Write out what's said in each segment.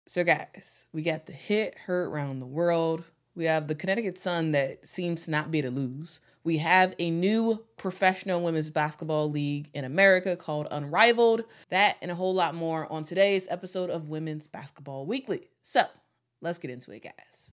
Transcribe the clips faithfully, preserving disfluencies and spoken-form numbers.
So guys, we got the hit heard around the world. We have the Connecticut Sun that seems to not be to lose. We have a new professional women's basketball league in America called Unrivaled. That and a whole lot more on today's episode of Women's Basketball Weekly. So let's get into it, guys.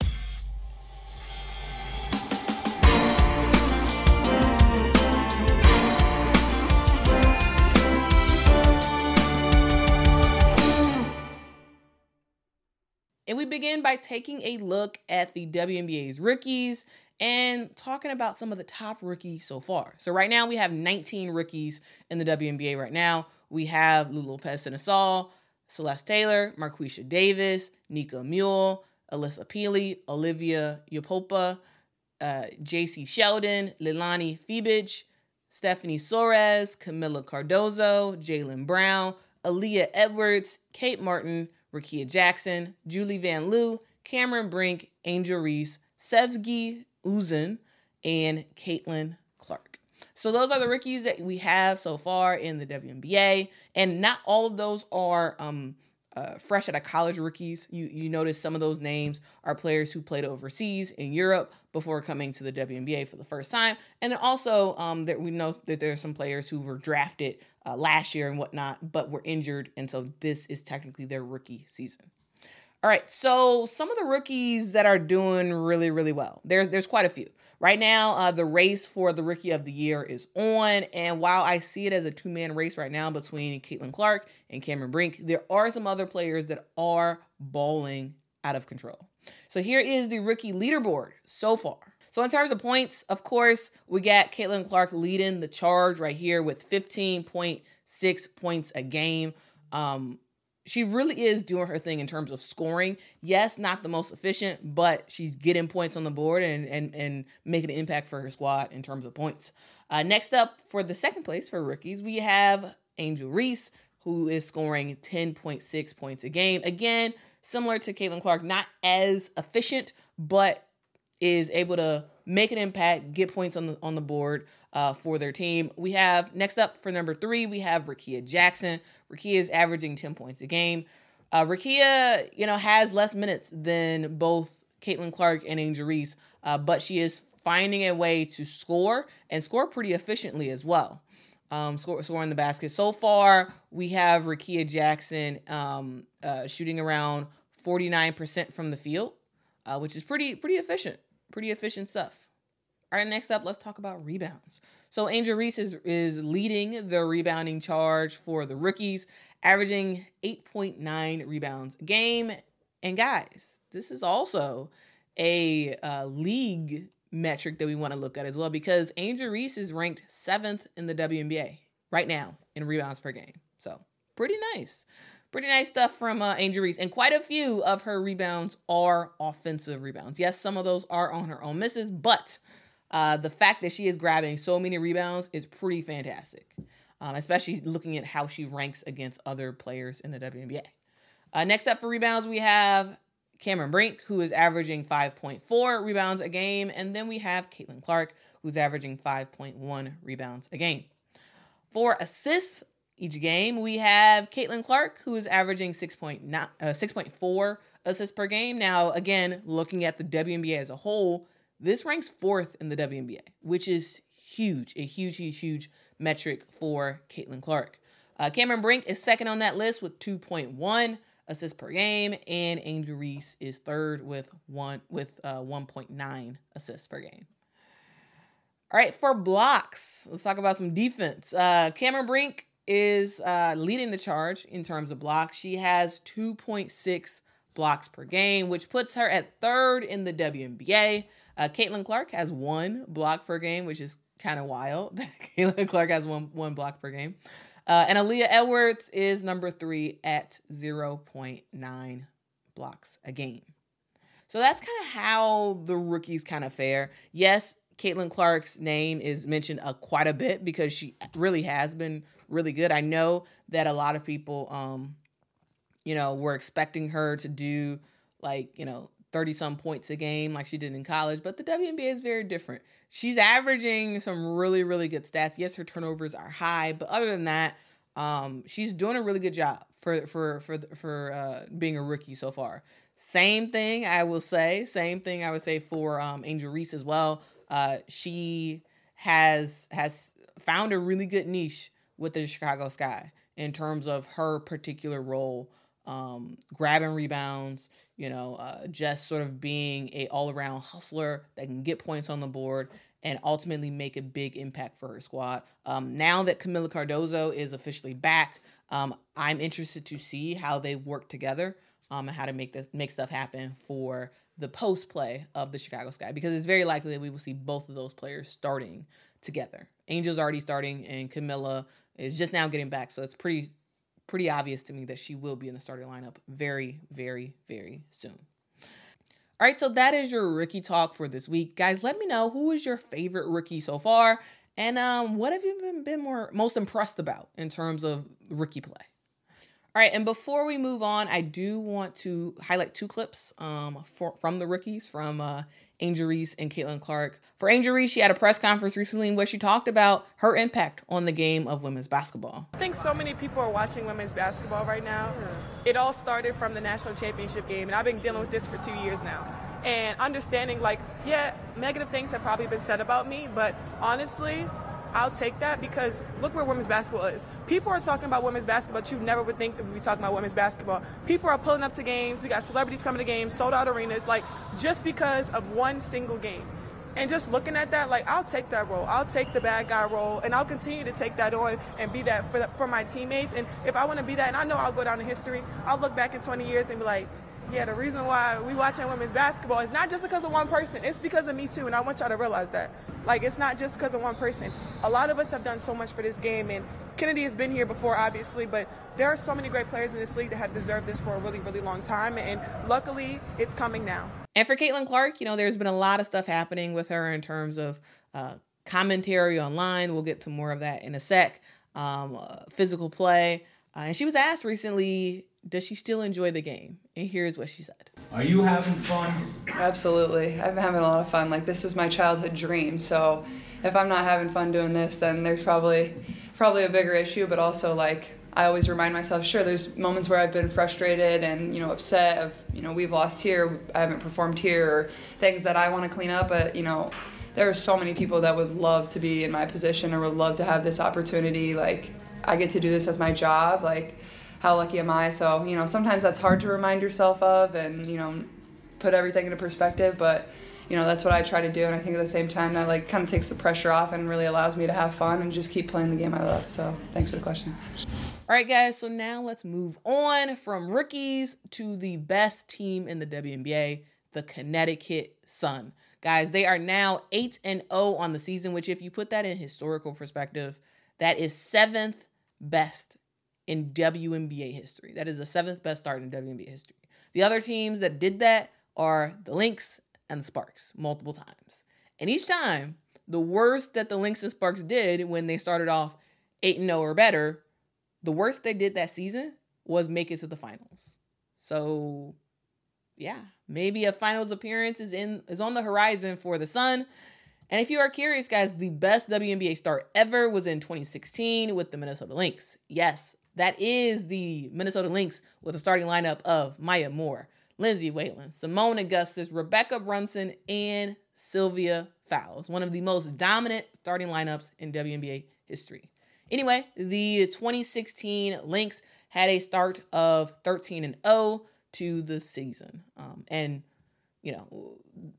And we begin by taking a look at the W N B A's rookies and talking about some of the top rookies so far. So right now we have nineteen rookies in the W N B A right now. We have Lulu Lopez-Sinasal, Celeste Taylor, Marquisha Davis, Nika Mule, Alyssa Peely, Olivia Yopopa, uh, J C Sheldon, Leilani Fibich, Stephanie Soares, Camila Cardozo, Jaylen Brown, Aaliyah Edwards, Kate Martin, Rickea Jackson, Julie Van Loo, Cameron Brink, Angel Reese, Sevgi Uzun, and Caitlin Clark. So those are the rookies that we have so far in the W N B A, and not all of those are um, uh, fresh out of college rookies. You you notice some of those names are players who played overseas in Europe before coming to the W N B A for the first time, and then also um, that we know that there are some players who were drafted Uh, last year and whatnot, but were injured, and so this is technically their rookie season. All right, so some of the rookies that are doing really, really well. There's there's quite a few. Right now, uh, the race for the Rookie of the Year is on, and while I see it as a two-man race right now between Caitlin Clark and Cameron Brink, there are some other players that are balling out of control. So here is the rookie leaderboard so far. So in terms of points, of course, we got Caitlin Clark leading the charge right here with fifteen point six points a game. Um, she really is doing her thing in terms of scoring. Yes, not the most efficient, but she's getting points on the board and and, and making an impact for her squad in terms of points. Uh, next up, for the second place for rookies, we have Angel Reese, who is scoring ten point six points a game. Again, similar to Caitlin Clark, not as efficient, but is able to make an impact, get points on the on the board uh, for their team. We have, next up for number three, we have Rickea Jackson. Rickea is averaging ten points a game. Uh, Rickea, you know, has less minutes than both Caitlin Clark and Angel Reese, uh, but she is finding a way to score and score pretty efficiently as well. Um, score, scoring the basket. So far, we have Rickea Jackson um, uh, shooting around forty-nine percent from the field, uh, which is pretty pretty efficient. Pretty efficient stuff. All right, next up, let's talk about rebounds. So Angel Reese is, is leading the rebounding charge for the rookies, averaging eight point nine rebounds a game. And guys, this is also a uh, league metric that we want to look at as well, because Angel Reese is ranked seventh in the W N B A right now in rebounds per game. So pretty nice. Pretty nice stuff from uh, Angel Reese. And quite a few of her rebounds are offensive rebounds. Yes, some of those are on her own misses, but uh, the fact that she is grabbing so many rebounds is pretty fantastic, um, especially looking at how she ranks against other players in the W N B A. Uh, next up for rebounds, we have Cameron Brink, who is averaging five point four rebounds a game. And then we have Caitlin Clark, who's averaging five point one rebounds a game. For assists each game, we have Caitlin Clark, who is averaging six point four assists per game. Now, again, looking at the W N B A as a whole, this ranks fourth in the W N B A, which is huge, a huge, huge, huge metric for Caitlin Clark. Uh, Cameron Brink is second on that list with two point one assists per game, and Angel Reese is third with one with uh, one point nine assists per game. All right, for blocks, let's talk about some defense. Uh, Cameron Brink is uh, leading the charge in terms of blocks. She has two point six blocks per game, which puts her at third in the W N B A. Uh, Caitlin Clark has one block per game, which is kind of wild. Caitlin Clark has one, one block per game. Uh, and Aaliyah Edwards is number three at zero point nine blocks a game. So that's kind of how the rookies kind of fare. Yes, Caitlin Clark's name is mentioned uh, quite a bit because she really has been really good. I know that a lot of people, um, you know, were expecting her to do like, you know, thirty some points a game like she did in college, but the W N B A is very different. She's averaging some really, really good stats. Yes, her turnovers are high, but other than that, um, she's doing a really good job for for for for uh, being a rookie so far. Same thing I will say. Same thing I would say for um, Angel Reese as well. Uh, she has has found a really good niche with the Chicago Sky in terms of her particular role, um, grabbing rebounds, you know, uh, just sort of being a all-around hustler that can get points on the board and ultimately make a big impact for her squad. Um, now that Kamilla Cardoso is officially back, um, I'm interested to see how they work together um, and how to make this make stuff happen for the post play of the Chicago Sky, because it's very likely that we will see both of those players starting together. Angel's already starting, and Kamilla is just now getting back, so it's pretty pretty obvious to me that she will be in the starting lineup very, very, very soon. All right, so that is your rookie talk for this week. Guys, let me know who is your favorite rookie so far, and um, what have you been, been more most impressed about in terms of rookie play? All right, and before we move on, I do want to highlight two clips um, for, from the rookies, from uh, Angel Reese and Caitlin Clark. For Angel Reese, she had a press conference recently in which she talked about her impact on the game of women's basketball. I think so many people are watching women's basketball right now. It all started from the national championship game, and I've been dealing with this for two years now. And understanding, like, yeah, negative things have probably been said about me, but honestly, I'll take that, because look where women's basketball is. People are talking about women's basketball, but you never would think that we'd be talking about women's basketball. People are pulling up to games. We got celebrities coming to games, sold out arenas, like, just because of one single game. And just looking at that, like, I'll take that role. I'll take the bad guy role, and I'll continue to take that on and be that for, the, for my teammates. And if I want to be that, and I know I'll go down in history, I'll look back in twenty years and be like, yeah, the reason why we watching women's basketball is not just because of one person. It's because of me too, and I want y'all to realize that. Like, it's not just because of one person. A lot of us have done so much for this game, and Kennedy has been here before, obviously, but there are so many great players in this league that have deserved this for a really, really long time, and luckily, it's coming now. And for Caitlin Clark, you know, there's been a lot of stuff happening with her in terms of uh, commentary online. We'll get to more of that in a sec. Um, uh, physical play. Uh, and she was asked recently, does she still enjoy the game? And here's what she said. Are you having fun? Absolutely. I've been having a lot of fun. Like, this is my childhood dream. So if I'm not having fun doing this, then there's probably probably a bigger issue. But also, like, I always remind myself, sure, there's moments where I've been frustrated and, you know, upset of, you know, we've lost here, I haven't performed here, or things that I want to clean up. But, you know, there are so many people that would love to be in my position or would love to have this opportunity. Like, I get to do this as my job. Like, how lucky am I? So, you know, sometimes that's hard to remind yourself of and, you know, put everything into perspective. But, you know, that's what I try to do. And I think at the same time that, like, kind of takes the pressure off and really allows me to have fun and just keep playing the game I love. So thanks for the question. All right, guys. So now let's move on from rookies to the best team in the W N B A, the Connecticut Sun. Guys, they are now eight and oh on the season, which, if you put that in historical perspective, that is seventh best in W N B A history. That is the seventh best start in W N B A history. The other teams that did that are the Lynx and the Sparks multiple times. And each time, the worst that the Lynx and Sparks did when they started off eight and oh or better, the worst they did that season was make it to the finals. So, yeah, maybe a finals appearance is in is on the horizon for the Sun. And if you are curious, guys, the best W N B A start ever was in twenty sixteen with the Minnesota Lynx. Yes, that is the Minnesota Lynx with a starting lineup of Maya Moore, Lindsay Whalen, Simone Augustus, Rebecca Brunson, and Sylvia Fowles. One of the most dominant starting lineups in W N B A history. Anyway, the twenty sixteen Lynx had a start of thirteen and oh to the season. Um, and, you know,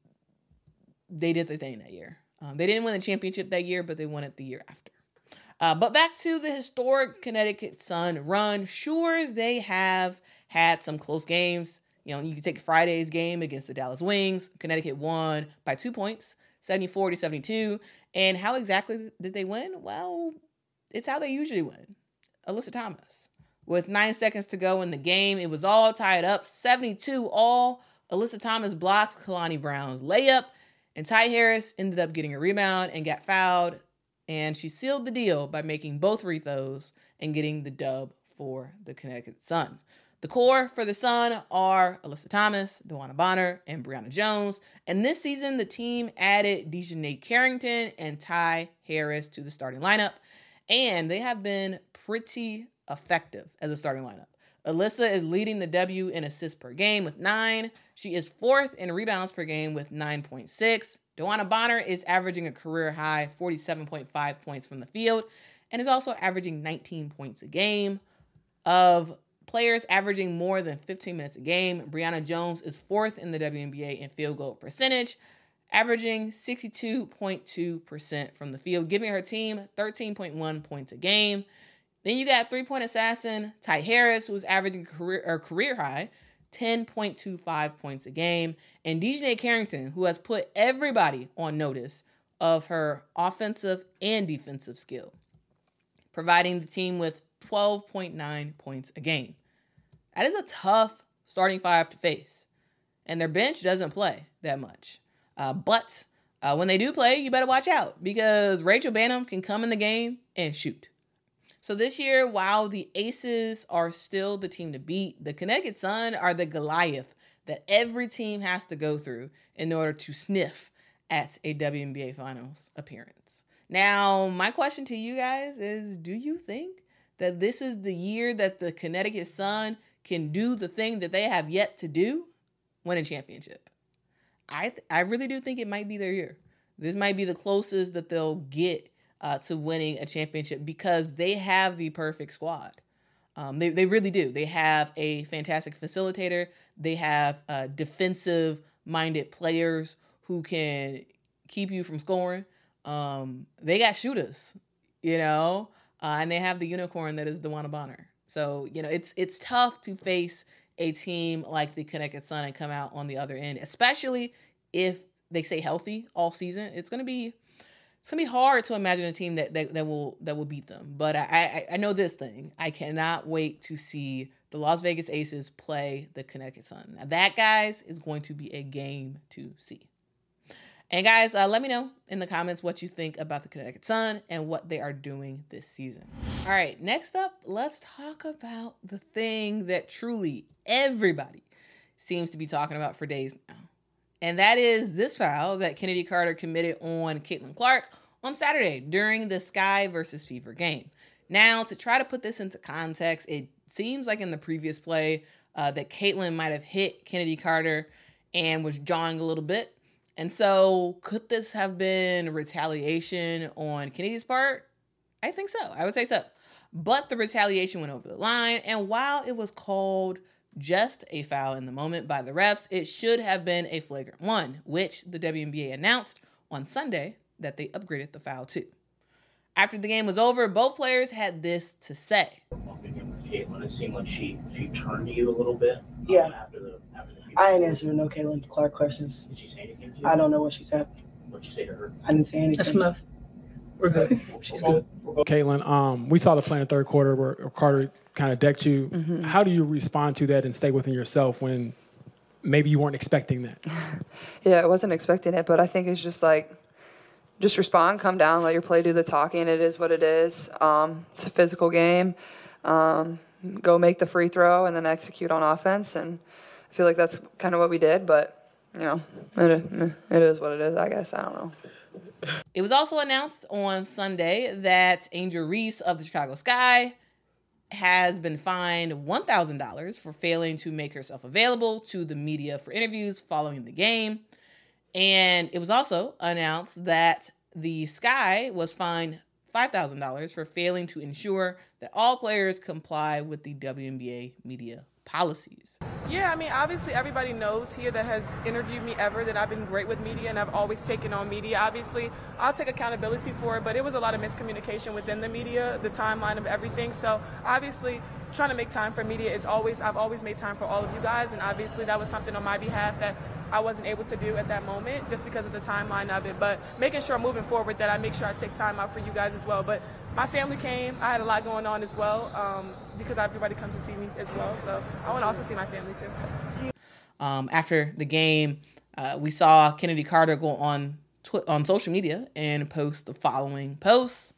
they did their thing that year. Um, they didn't win the championship that year, but they won it the year after. Uh, but back to the historic Connecticut Sun run. Sure, they have had some close games. You know, you can take Friday's game against the Dallas Wings. Connecticut won by two points, seventy-four to seventy-two. And how exactly did they win? Well, it's how they usually win. Alyssa Thomas. With nine seconds to go in the game, it was all tied up, seventy-two all. Alyssa Thomas blocks Kalani Brown's layup, and Ty Harris ended up getting a rebound and got fouled, and she sealed the deal by making both free throws and getting the dub for the Connecticut Sun. The core for the Sun are Alyssa Thomas, DeWanna Bonner, and Brianna Jones. And this season, the team added Dejanay Carrington and Ty Harris to the starting lineup, and they have been pretty effective as a starting lineup. Alyssa is leading the W in assists per game with nine. She is fourth in rebounds per game with nine point six. DeWanna Bonner is averaging a career high forty-seven point five points from the field and is also averaging nineteen points a game. Of players averaging more than fifteen minutes a game, Brianna Jones is fourth in the W N B A in field goal percentage, averaging sixty-two point two percent from the field, giving her team thirteen point one points a game. Then you got three-point assassin Ty Harris, who's averaging career or career high ten point two five points a game, and Dejanay Carrington, who has put everybody on notice of her offensive and defensive skill, providing the team with twelve point nine points a game. That is a tough starting five to face, and their bench doesn't play that much. Uh, but uh, when they do play, you better watch out because Rachel Banham can come in the game and shoot. So this year, while the Aces are still the team to beat, the Connecticut Sun are the Goliath that every team has to go through in order to sniff at a W N B A Finals appearance. Now, my question to you guys is, do you think that this is the year that the Connecticut Sun can do the thing that they have yet to do? Win a championship. I th- I really do think it might be their year. This might be the closest that they'll get uh, to winning a championship because they have the perfect squad. Um, they, they really do. They have a fantastic facilitator. They have uh, defensive-minded players who can keep you from scoring. Um, they got shooters, you know, uh, and they have the unicorn that is DeWanna Bonner. So, you know, it's it's tough to face a team like the Connecticut Sun and come out on the other end, especially if they stay healthy all season. It's gonna be it's gonna be hard to imagine a team that that, that will that will beat them. But I, I I know this thing. I cannot wait to see the Las Vegas Aces play the Connecticut Sun. Now that, guys, is going to be a game to see. And guys, uh, let me know in the comments what you think about the Connecticut Sun and what they are doing this season. All right, next up, let's talk about the thing that truly everybody seems to be talking about for days now. And that is this foul that Kennedy Carter committed on Caitlin Clark on Saturday during the Sky versus Fever game. Now, to try to put this into context, it seems like in the previous play uh, that Caitlin might have hit Kennedy Carter and was jawing a little bit. And so could this have been retaliation on Kennedy's part? I think so. I would say so. But the retaliation went over the line. And while it was called just a foul in the moment by the refs, it should have been a flagrant one, which the W N B A announced on Sunday that they upgraded the foul to. After the game was over, both players had this to say. Caitlin, it seemed like she, she turned to you a little bit. Yeah. Um, after the after the I ain't answering no Caitlin Clark questions. Did she say anything to you? I don't know what she said. What'd you say to her? I didn't say anything. That's enough. We're good. She's good. Caitlin, um, we saw the play in the third quarter where Carter kind of decked you. Mm-hmm. How do you respond to that and stay within yourself when maybe you weren't expecting that? Yeah, I wasn't expecting it, but I think it's just like, just respond, come down, let your play do the talking. It is what it is. Um, it's a physical game. Um, go make the free throw and then execute on offense. And I feel like that's kind of what we did, but, you know, it, it is what it is, I guess. I don't know. It was also announced on Sunday that Angel Reese of the Chicago Sky has been fined one thousand dollars for failing to make herself available to the media for interviews following the game. And it was also announced that the Sky was fined five thousand dollars for failing to ensure that all players comply with the W N B A media policies. Yeah, I mean, obviously everybody knows here that has interviewed me ever that I've been great with media and I've always taken on media. Obviously, I'll take accountability for it, but it was a lot of miscommunication within the media, the timeline of everything. So obviously, trying to make time for media is always, I've always made time for all of you guys, and obviously that was something on my behalf that I wasn't able to do at that moment just because of the timeline of it. But making sure moving forward that I make sure I take time out for you guys as well. But my family came. I had a lot going on as well um, because everybody comes to see me as well. So I want to also see my family too. So. Um, after the game, uh, we saw Kennedy Carter go on tw- on social media and post the following posts.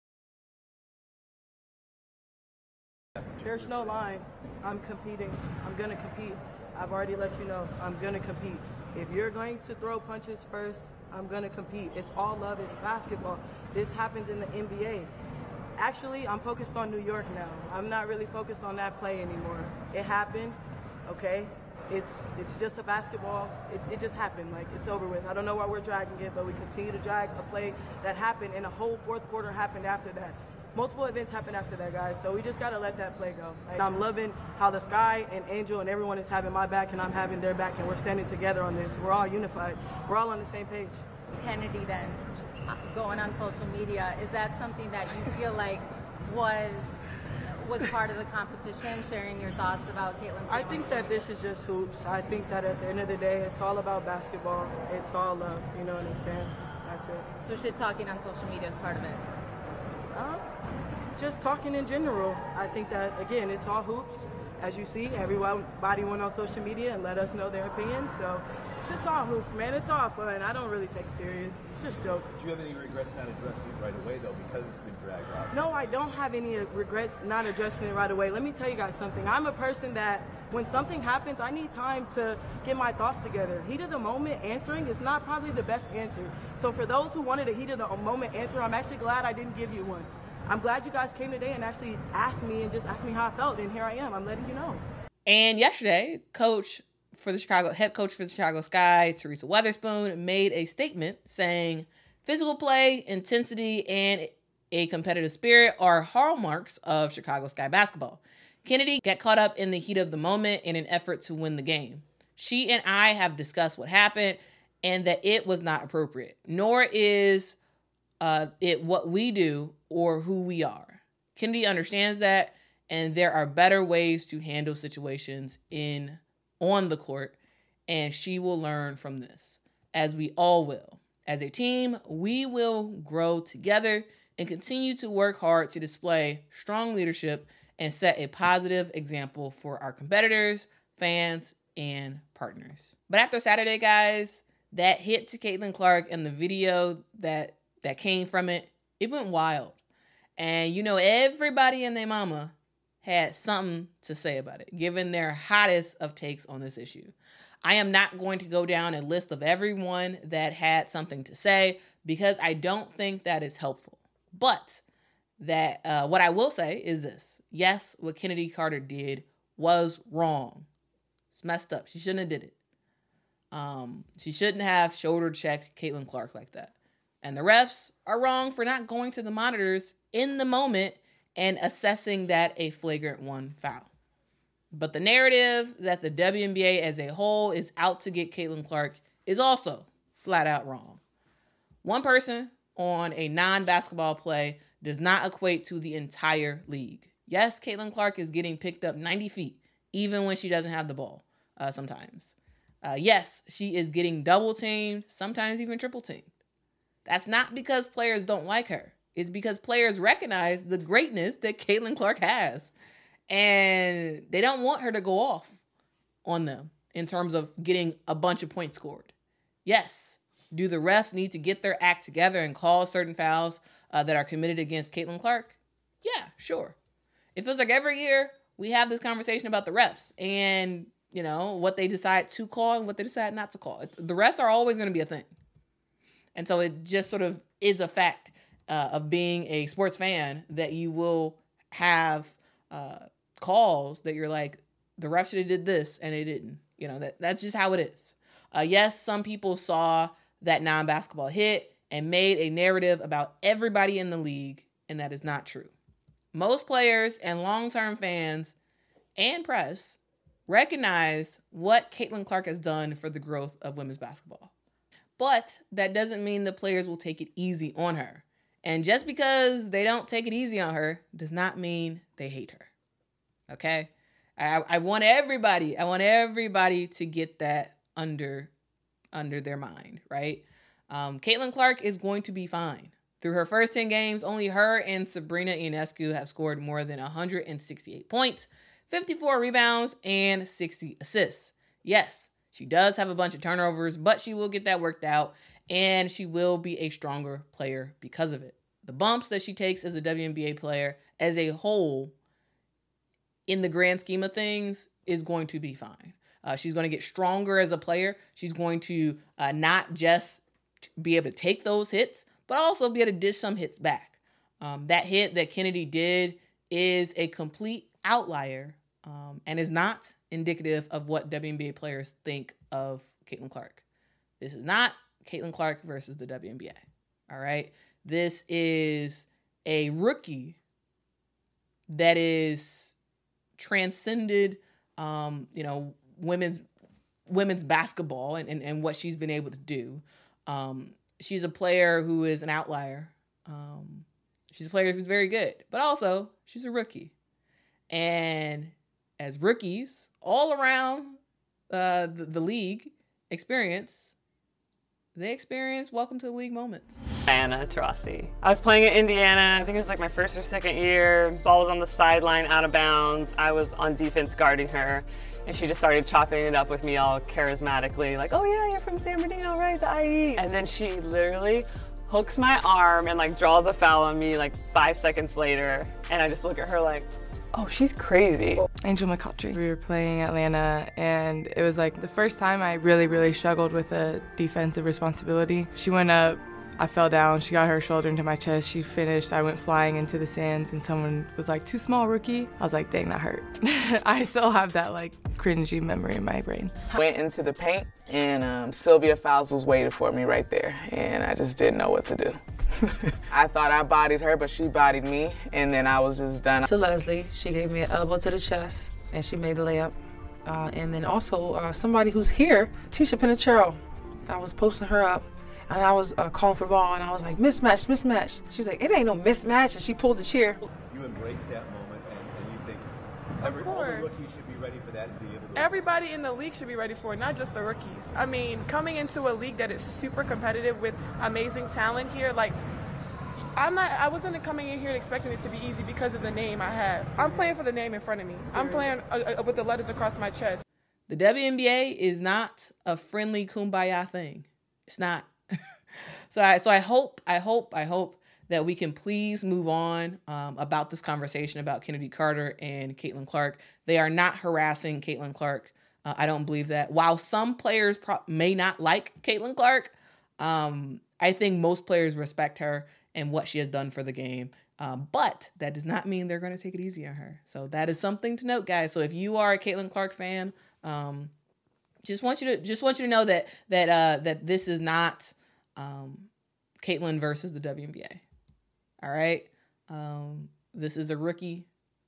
There's no line. I'm competing. I'm going to compete. I've already let you know I'm going to compete. If you're going to throw punches first, I'm going to compete. It's all love. It's basketball. This happens in the N B A. actually, I'm focused on New York now. I'm not really focused on that play anymore. It happened, okay? It's it's just a basketball. It, it just happened. Like, it's over with. I don't know why we're dragging it, but we continue to drag a play that happened, and a whole fourth quarter happened after that. Multiple events happened after that, guys. So we just got to let that play go. Like, I'm loving how the Sky and Angel and everyone is having my back, and I'm having their back, and we're standing together on this. We're all unified. We're all on the same page. Kennedy, then, going on social media, is that something that you feel like was was part of the competition, sharing your thoughts about Caitlin's game? I think that this is just hoops. I think that at the end of the day, it's all about basketball. It's all love. You know what I'm saying? That's it. So shit talking on social media is part of it? Uh, just talking in general. I think that, again, it's all hoops. As you see, everybody went on social media and let us know their opinions. So it's just all hoops, man. It's all fun. I don't really take it serious. It's just jokes. Do you have any regrets not addressing it right away, though, because it's been dragged out? No, I don't have any regrets not addressing it right away. Let me tell you guys something. I'm a person that when something happens, I need time to get my thoughts together. Heat of the moment answering is not probably the best answer. So for those who wanted a heat of the moment answer, I'm actually glad I didn't give you one. I'm glad you guys came today and actually asked me and just asked me how I felt, and here I am. I'm letting you know. And yesterday, coach for the Chicago, head coach for the Chicago Sky, Teresa Weatherspoon, made a statement saying physical play, intensity, and a competitive spirit are hallmarks of Chicago Sky basketball. Kennedy got caught up in the heat of the moment in an effort to win the game. She and I have discussed what happened and that it was not appropriate, nor is uh, it what we do or who we are. Kennedy understands that, and there are better ways to handle situations in on the court, and she will learn from this, as we all will. As a team, we will grow together and continue to work hard to display strong leadership and set a positive example for our competitors, fans, and partners. But after Saturday, guys, that hit to Caitlin Clark and the video that that came from it, it went wild. And you know, everybody and their mama had something to say about it, given their hottest of takes on this issue. I am not going to go down a list of everyone that had something to say because I don't think that is helpful. But that uh, what I will say is this. Yes, what Kennedy Carter did was wrong. It's messed up. She shouldn't have did it. Um, she shouldn't have shoulder checked Caitlin Clark like that. And the refs are wrong for not going to the monitors in the moment and assessing that a flagrant one foul. But the narrative that the W N B A as a whole is out to get Caitlin Clark is also flat out wrong. One person on a non-basketball play does not equate to the entire league. Yes, Caitlin Clark is getting picked up ninety feet, even when she doesn't have the ball uh, sometimes. Uh, yes, she is getting double teamed, sometimes even triple teamed. That's not because players don't like her. It's because players recognize the greatness that Caitlin Clark has. And they don't want her to go off on them in terms of getting a bunch of points scored. Yes, do the refs need to get their act together and call certain fouls uh, that are committed against Caitlin Clark? Yeah, sure. It feels like every year we have this conversation about the refs and, you know, what they decide to call and what they decide not to call. It's, the refs are always going to be a thing. And so it just sort of is a fact uh, of being a sports fan that you will have uh, calls that you're like, the ref should have did this and they didn't. You know, that that's just how it is. Uh, yes, some people saw that non-basketball hit and made a narrative about everybody in the league, and that is not true. Most players and long-term fans and press recognize what Caitlin Clark has done for the growth of women's basketball. But that doesn't mean the players will take it easy on her. And just because they don't take it easy on her does not mean they hate her. Okay? I, I want everybody, I want everybody to get that under, under their mind, right? Um, Caitlin Clark is going to be fine. Through her first ten games, only her and Sabrina Ionescu have scored more than one hundred sixty-eight points, fifty-four rebounds, and sixty assists. Yes, she does have a bunch of turnovers, but she will get that worked out, and she will be a stronger player because of it. The bumps that she takes as a W N B A player as a whole, in the grand scheme of things, is going to be fine. Uh, she's going to get stronger as a player. She's going to uh, not just be able to take those hits, but also be able to dish some hits back. Um, that hit that Kennedy did is a complete outlier um, and is not indicative of what W N B A players think of Caitlin Clark. This is not Caitlin Clark versus the W N B A. All right. This is a rookie that is transcended, um, you know, women's women's basketball and, and, and what she's been able to do. Um, she's a player who is an outlier. Um, she's a player who's very good, but also she's a rookie. And as rookies all around uh, the, the league experience, they experience welcome to the league moments. Diana Taurasi. I was playing at Indiana, I think it was like my first or second year. Ball was on the sideline, out of bounds. I was on defense guarding her, and she just started chopping it up with me all charismatically, like, oh yeah, you're from San Bernardino, right, the I E. And then she literally hooks my arm and like draws a foul on me like five seconds later, and I just look at her like, oh, she's crazy. Angel McCoughtry. We were playing Atlanta, and it was like the first time I really, really struggled with a defensive responsibility. She went up, I fell down, she got her shoulder into my chest, she finished, I went flying into the sands, and someone was like, too small, rookie. I was like, dang, that hurt. I still have that like cringy memory in my brain. Went into the paint, and um, Sylvia Fowles was waiting for me right there, and I just didn't know what to do. I thought I bodied her, but she bodied me, and then I was just done. To Leslie, she gave me an elbow to the chest, and she made the layup. Uh, and then also uh, somebody who's here, Tisha Pinachero. I was posting her up, and I was uh, calling for ball, and I was like, mismatch, mismatch. She's like, it ain't no mismatch, and she pulled the chair. You embrace that moment, and, and you think every all the rookies should be ready for that and be able to. Everybody in the league should be ready for it, not just the rookies. I mean, coming into a league that is super competitive with amazing talent here, like, I'm not, I wasn't coming in here expecting it to be easy because of the name I have. I'm playing for the name in front of me. I'm playing uh, uh, with the letters across my chest. The W N B A is not a friendly kumbaya thing. It's not. so I, so I hope, I hope, I hope that we can please move on um, about this conversation about Kennedy Carter and Caitlin Clark. They are not harassing Caitlin Clark. Uh, I don't believe that. While some players pro- may not like Caitlin Clark, um, I think most players respect her and what she has done for the game. Um, but that does not mean they're going to take it easy on her. So that is something to note, guys. So if you are a Caitlin Clark fan, um, just want you to just want you to know that that uh, that this is not um, Caitlin versus the W N B A. All right, um, this is a rookie,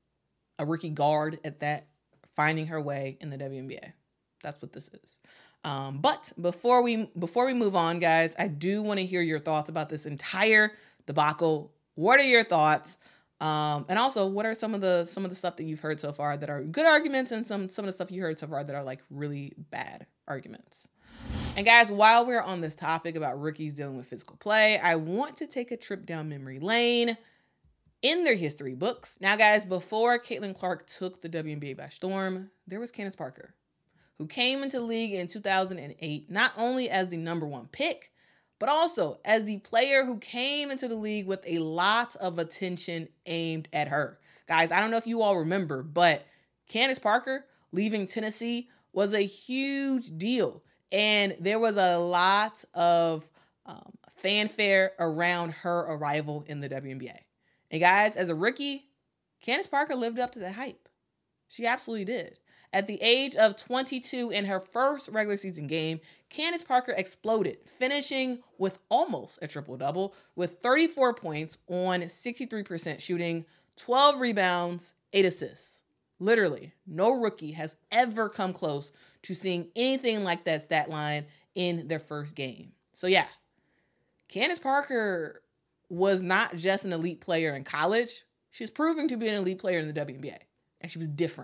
a rookie guard at that, finding her way in the W N B A. That's what this is. Um, but before we before we move on, guys, I do want to hear your thoughts about this entire debacle. What are your thoughts? Um, and also, what are some of the some of the stuff that you've heard so far that are good arguments, and some some of the stuff you heard so far that are like really bad arguments? And guys, while we're on this topic about rookies dealing with physical play, I want to take a trip down memory lane in their history books. Now, guys, before Caitlin Clark took the W N B A by storm, there was Candace Parker, who came into the league in two thousand eight, not only as the number one pick, but also as the player who came into the league with a lot of attention aimed at her. Guys, I don't know if you all remember, but Candace Parker leaving Tennessee was a huge deal. And there was a lot of um, fanfare around her arrival in the W N B A. And guys, as a rookie, Candace Parker lived up to the hype. She absolutely did. At the age of twenty-two in her first regular season game, Candace Parker exploded, finishing with almost a triple-double with thirty-four points on sixty-three percent shooting, twelve rebounds, eight assists. Literally, no rookie has ever come close to seeing anything like that stat line in their first game. So yeah, Candace Parker was not just an elite player in college. She was proving to be an elite player in the W N B A, and she was different.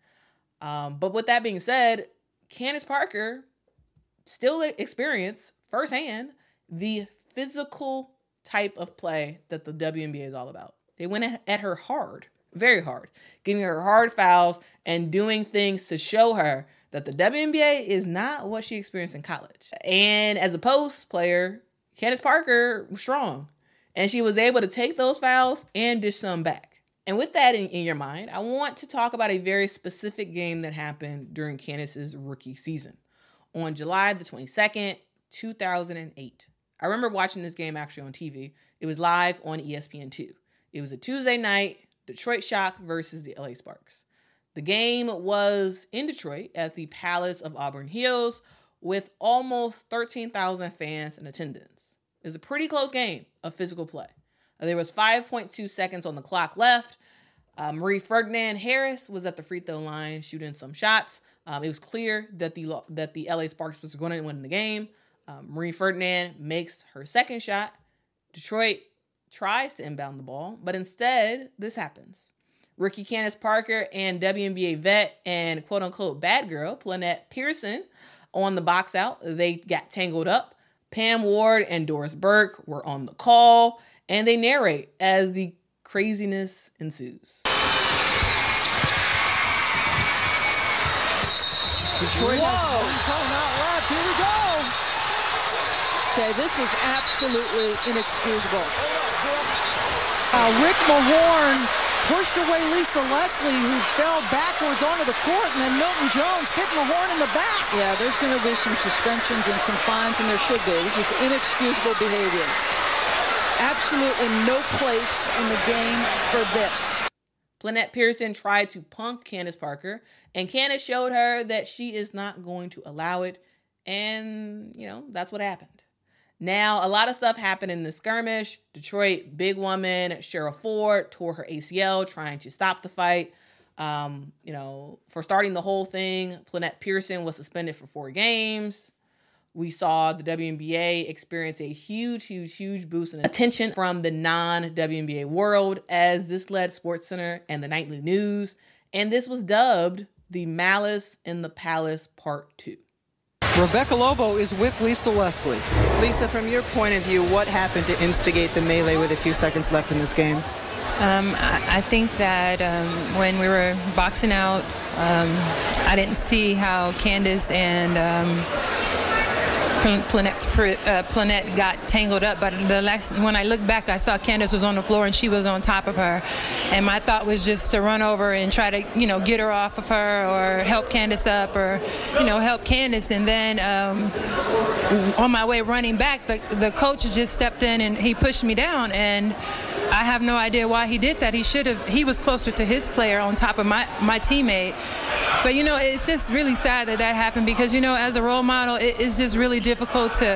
Um, but with that being said, Candace Parker still experienced firsthand the physical type of play that the W N B A is all about. They went at her hard, very hard, giving her hard fouls and doing things to show her that the W N B A is not what she experienced in college. And as a post player, Candace Parker was strong, and she was able to take those fouls and dish some back. And with that in, in your mind, I want to talk about a very specific game that happened during Candace's rookie season. On July the twenty-second, two thousand eight. I remember watching this game actually on T V. It was live on E S P N two. It was a Tuesday night, Detroit Shock versus the L A Sparks. The game was in Detroit at the Palace of Auburn Hills with almost thirteen thousand fans in attendance. It was a pretty close game of physical play. There was five point two seconds on the clock left. Uh, Marie Ferdinand Harris was at the free throw line shooting some shots. Um, it was clear that the that the L A Sparks was going to win the game. Um, Marie Ferdinand makes her second shot. Detroit tries to inbound the ball, but instead, this happens. Rookie Candace Parker and W N B A vet and quote-unquote bad girl, Plenette Pearson, on the box out. They got tangled up. Pam Ward and Doris Burke were on the call, and they narrate as the craziness ensues. Detroit Whoa. has one timeout left. Here we go. Okay, this is absolutely inexcusable. Uh, Rick Mahorn pushed away Lisa Leslie, who fell backwards onto the court, and then Milton Jones hit Mahorn in the back. Yeah, there's going to be some suspensions and some fines, and there should be. This is inexcusable behavior. Absolutely no place in the game for this. Plenette Pearson tried to punk Candace Parker, and Candace showed her that she is not going to allow it, and, you know, that's what happened. Now, a lot of stuff happened in the skirmish. Detroit, big woman, Cheryl Ford, tore her A C L trying to stop the fight. Um, you know, for starting the whole thing, Plenette Pearson was suspended for four games. We saw the W N B A experience a huge, huge, huge boost in attention from the non-W N B A world as this led SportsCenter and the Nightly News. And this was dubbed the Malice in the Palace Part two. Rebecca Lobo is with Lisa Leslie. Lisa, from your point of view, what happened to instigate the melee with a few seconds left in this game? Um, I, I think that um, when we were boxing out, um, I didn't see how Candace and um, Plenette, uh, Plenette got tangled up, but the last when I looked back, I saw Candace was on the floor and she was on top of her, and my thought was just to run over and try to, you know, get her off of her or help Candace up or, you know, help Candace. And then um, on my way running back, the the coach just stepped in and he pushed me down, and I have no idea why he did that. He should have. He was closer to his player on top of my my teammate. But, you know, it's just really sad that that happened because, you know, as a role model, it, it's just really difficult to,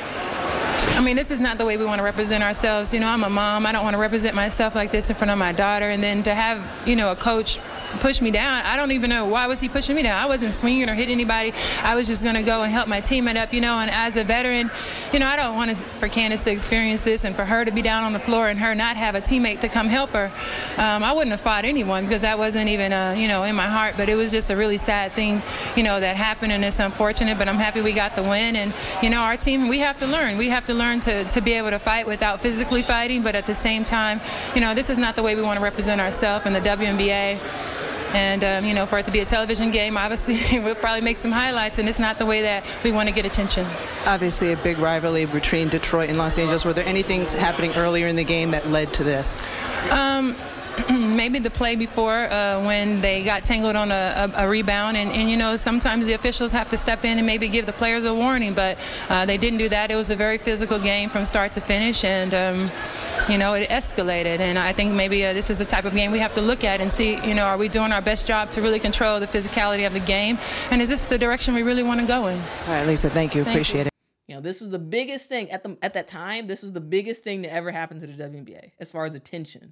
I mean, this is not the way we want to represent ourselves. You know, I'm a mom. I don't want to represent myself like this in front of my daughter. And then to have, you know, a coach push me down, I don't even know why was he pushing me down. I wasn't swinging or hitting anybody. I was just going to go and help my teammate up, you know. And as a veteran, you know, I don't want to, for Candace to experience this and for her to be down on the floor and her not have a teammate to come help her. Um, I wouldn't have fought anyone because that wasn't even, uh, you know, in my heart. But it was just a really sad thing, you know, that happened, and it's unfortunate. But I'm happy we got the win. And, you know, our team, we have to learn. We have to learn to, to be able to fight without physically fighting. But at the same time, you know, this is not the way we want to represent ourselves in the W N B A. And, um, you know, for it to be a television game, obviously we'll probably make some highlights, and it's not the way that we want to get attention. Obviously a big rivalry between Detroit and Los Angeles. Were there any things happening earlier in the game that led to this? Um, maybe the play before uh, when they got tangled on a, a, a rebound. And, and, you know, sometimes the officials have to step in and maybe give the players a warning. But uh, they didn't do that. It was a very physical game from start to finish. And, um, you know, it escalated. And I think maybe uh, this is the type of game we have to look at and see, you know, are we doing our best job to really control the physicality of the game? And is this the direction we really want to go in? All right, Lisa, thank you. Thank Appreciate you. it. You know, this was the biggest thing at the at that time. This was the biggest thing to ever happen to the W N B A as far as attention.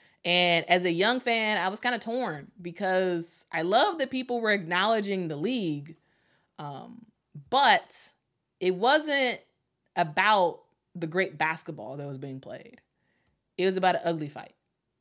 And as a young fan, I was kind of torn because I love that people were acknowledging the league, um, but it wasn't about the great basketball that was being played. It was about an ugly fight.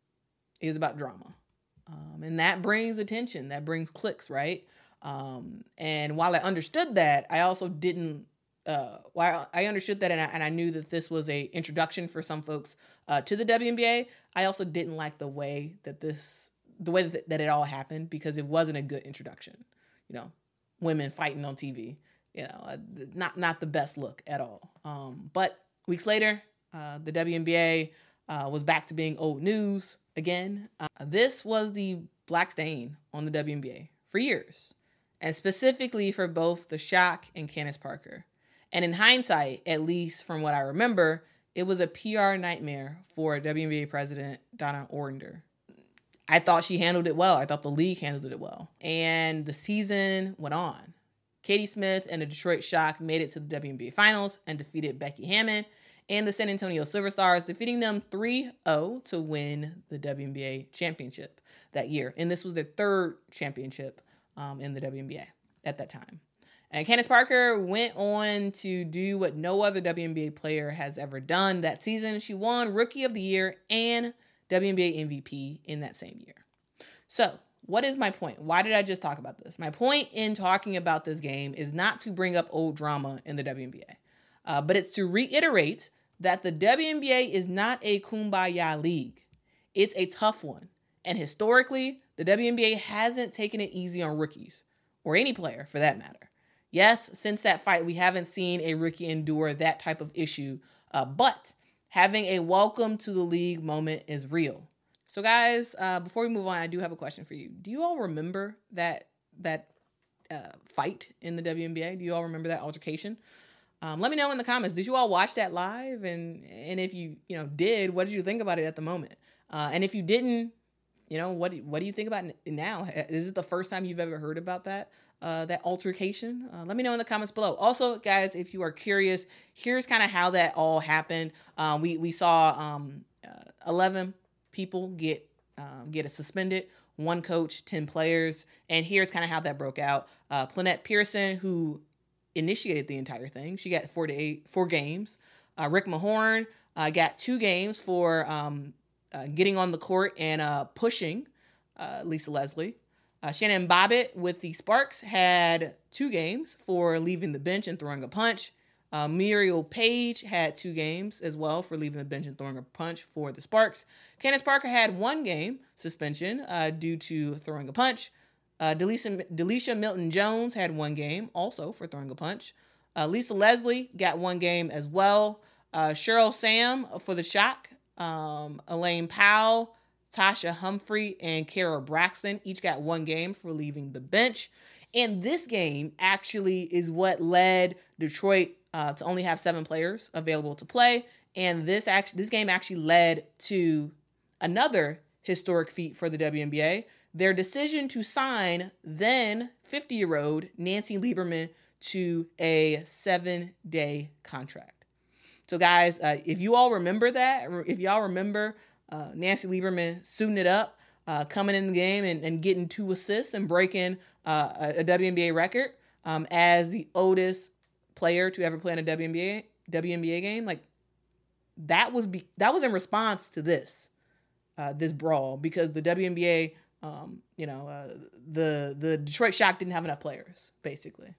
It was about drama. Um, and that brings attention. That brings clicks, right? Um, and while I understood that, I also didn't, uh, while I understood that and I, and I knew that this was a introduction for some folks uh, to the W N B A, I also didn't like the way that this, the way that, that it all happened because it wasn't a good introduction. You know, women fighting on T V, you know, uh, not, not the best look at all. Um, but weeks later, uh, the W N B A uh, was back to being old news again. Uh, this was the black stain on the W N B A for years, and specifically for both the Shock and Candace Parker. And in hindsight, at least from what I remember, It was a P R nightmare for W N B A president Donna Orender. I thought she handled it well. I thought the league handled it well. And the season went on. Katie Smith and the Detroit Shock made it to the W N B A Finals and defeated Becky Hammon and the San Antonio Silver Stars, defeating them three oh to win the W N B A championship that year. And this was their third championship um, in the W N B A at that time. And Candace Parker went on to do what no other W N B A player has ever done that season. She won Rookie of the Year and W N B A M V P in that same year. So, what is my point? Why did I just talk about this? My point in talking about this game is not to bring up old drama in the W N B A, uh, but it's to reiterate that the W N B A is not a kumbaya league. It's a tough one. And historically, the W N B A hasn't taken it easy on rookies, or any player for that matter. Yes, since that fight, we haven't seen a rookie endure that type of issue, uh, but having a welcome to the league moment is real. So guys, uh, before we move on, I do have a question for you. Do you all remember that that uh, fight in the W N B A? Do you all remember that altercation? Um, let me know in the comments. Did you all watch that live? And and if you you know did, what did you think about it at the moment? Uh, and if you didn't, you know what what do you think about it now? Is it the first time you've ever heard about that? Uh, that altercation? Uh, let me know in the comments below. Also, guys, if you are curious, here's kind of how that all happened. Um, we we saw um, uh, eleven people get um, get suspended, one coach, ten players, and here's kind of how that broke out. Uh, Plannette Pearson, who initiated the entire thing, she got four to eight four games. Uh, Rick Mahorn uh, got two games for um, uh, getting on the court and uh, pushing uh, Lisa Leslie. Uh, Shannon Bobbitt with the Sparks had two games for leaving the bench and throwing a punch. Uh, Muriel Page had two games as well for leaving the bench and throwing a punch for the Sparks. Candace Parker had one game suspension uh, due to throwing a punch. Uh, Delisha, Delisha Milton-Jones had one game also for throwing a punch. Uh, Lisa Leslie got one game as well. Uh, Cheryl Sam for the Shock. Um, Elaine Powell, Tasha Humphrey, and Kara Braxton each got one game for leaving the bench. And this game actually is what led Detroit uh, to only have seven players available to play. And this actually, this game actually led to another historic feat for the W N B A. Their decision to sign then fifty-year-old Nancy Lieberman to a seven-day contract. So guys, uh, if you all remember that, if y'all remember uh, Nancy Lieberman suiting it up, uh, coming in the game and, and getting two assists and breaking uh, a, a W N B A record um, as the oldest player to ever play in a W N B A W N B A game, like that was be, that was in response to this uh, this brawl, because the W N B A, um, you know, uh, the the Detroit Shock didn't have enough players basically.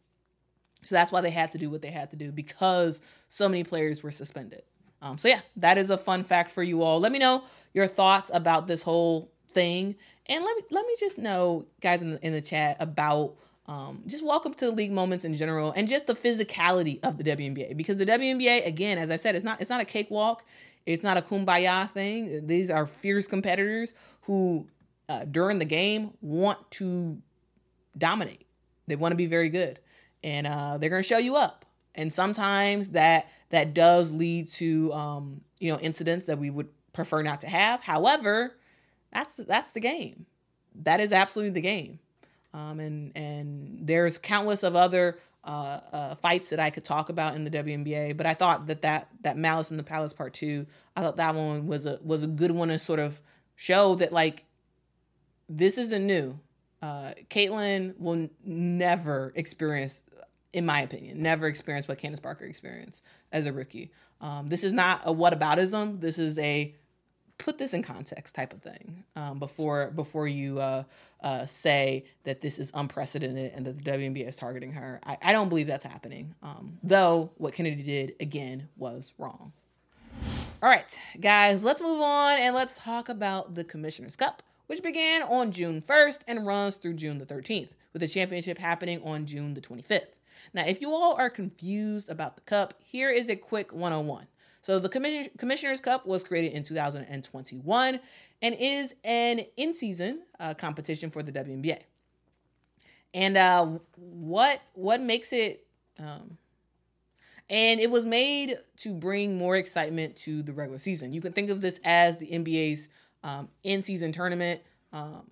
So that's why they had to do what they had to do, because so many players were suspended. Um, so yeah, that is a fun fact for you all. Let me know your thoughts about this whole thing. And let me, let me just know, guys, in the, in the chat about um, just welcome to the league moments in general and just the physicality of the W N B A. Because the W N B A, again, as I said, it's not, it's not a cakewalk. It's not a kumbaya thing. These are fierce competitors who, uh, during the game, want to dominate. They want to be very good. And uh, they're going to show you up. And sometimes that that does lead to, um, you know, incidents that we would prefer not to have. However, that's that's the game. That is absolutely the game. Um, and and there's countless of other uh, uh, fights that I could talk about in the W N B A. But I thought that that, that Malice in the Palace Part Two, I thought that one was a was a good one to sort of show that, like, this isn't new. Uh, Caitlin will n- never experience, in my opinion, never experienced what Candace Parker experienced as a rookie. Um, this is not a whataboutism. This is a put this in context type of thing um, before before you uh, uh, say that this is unprecedented and that the W N B A is targeting her. I, I don't believe that's happening, um, though what Kennedy did, again, was wrong. All right, guys, let's move on and let's talk about the Commissioner's Cup, which began on June first and runs through June the thirteenth, with the championship happening on June the twenty-fifth. Now, if you all are confused about the cup, here is a quick one oh one. So the Commission- Commissioner's Cup was created in two thousand twenty-one and is an in-season uh, competition for the W N B A. And uh, what what makes it um, And it was made to bring more excitement to the regular season. You can think of this as the N B A's um, in-season tournament. Um,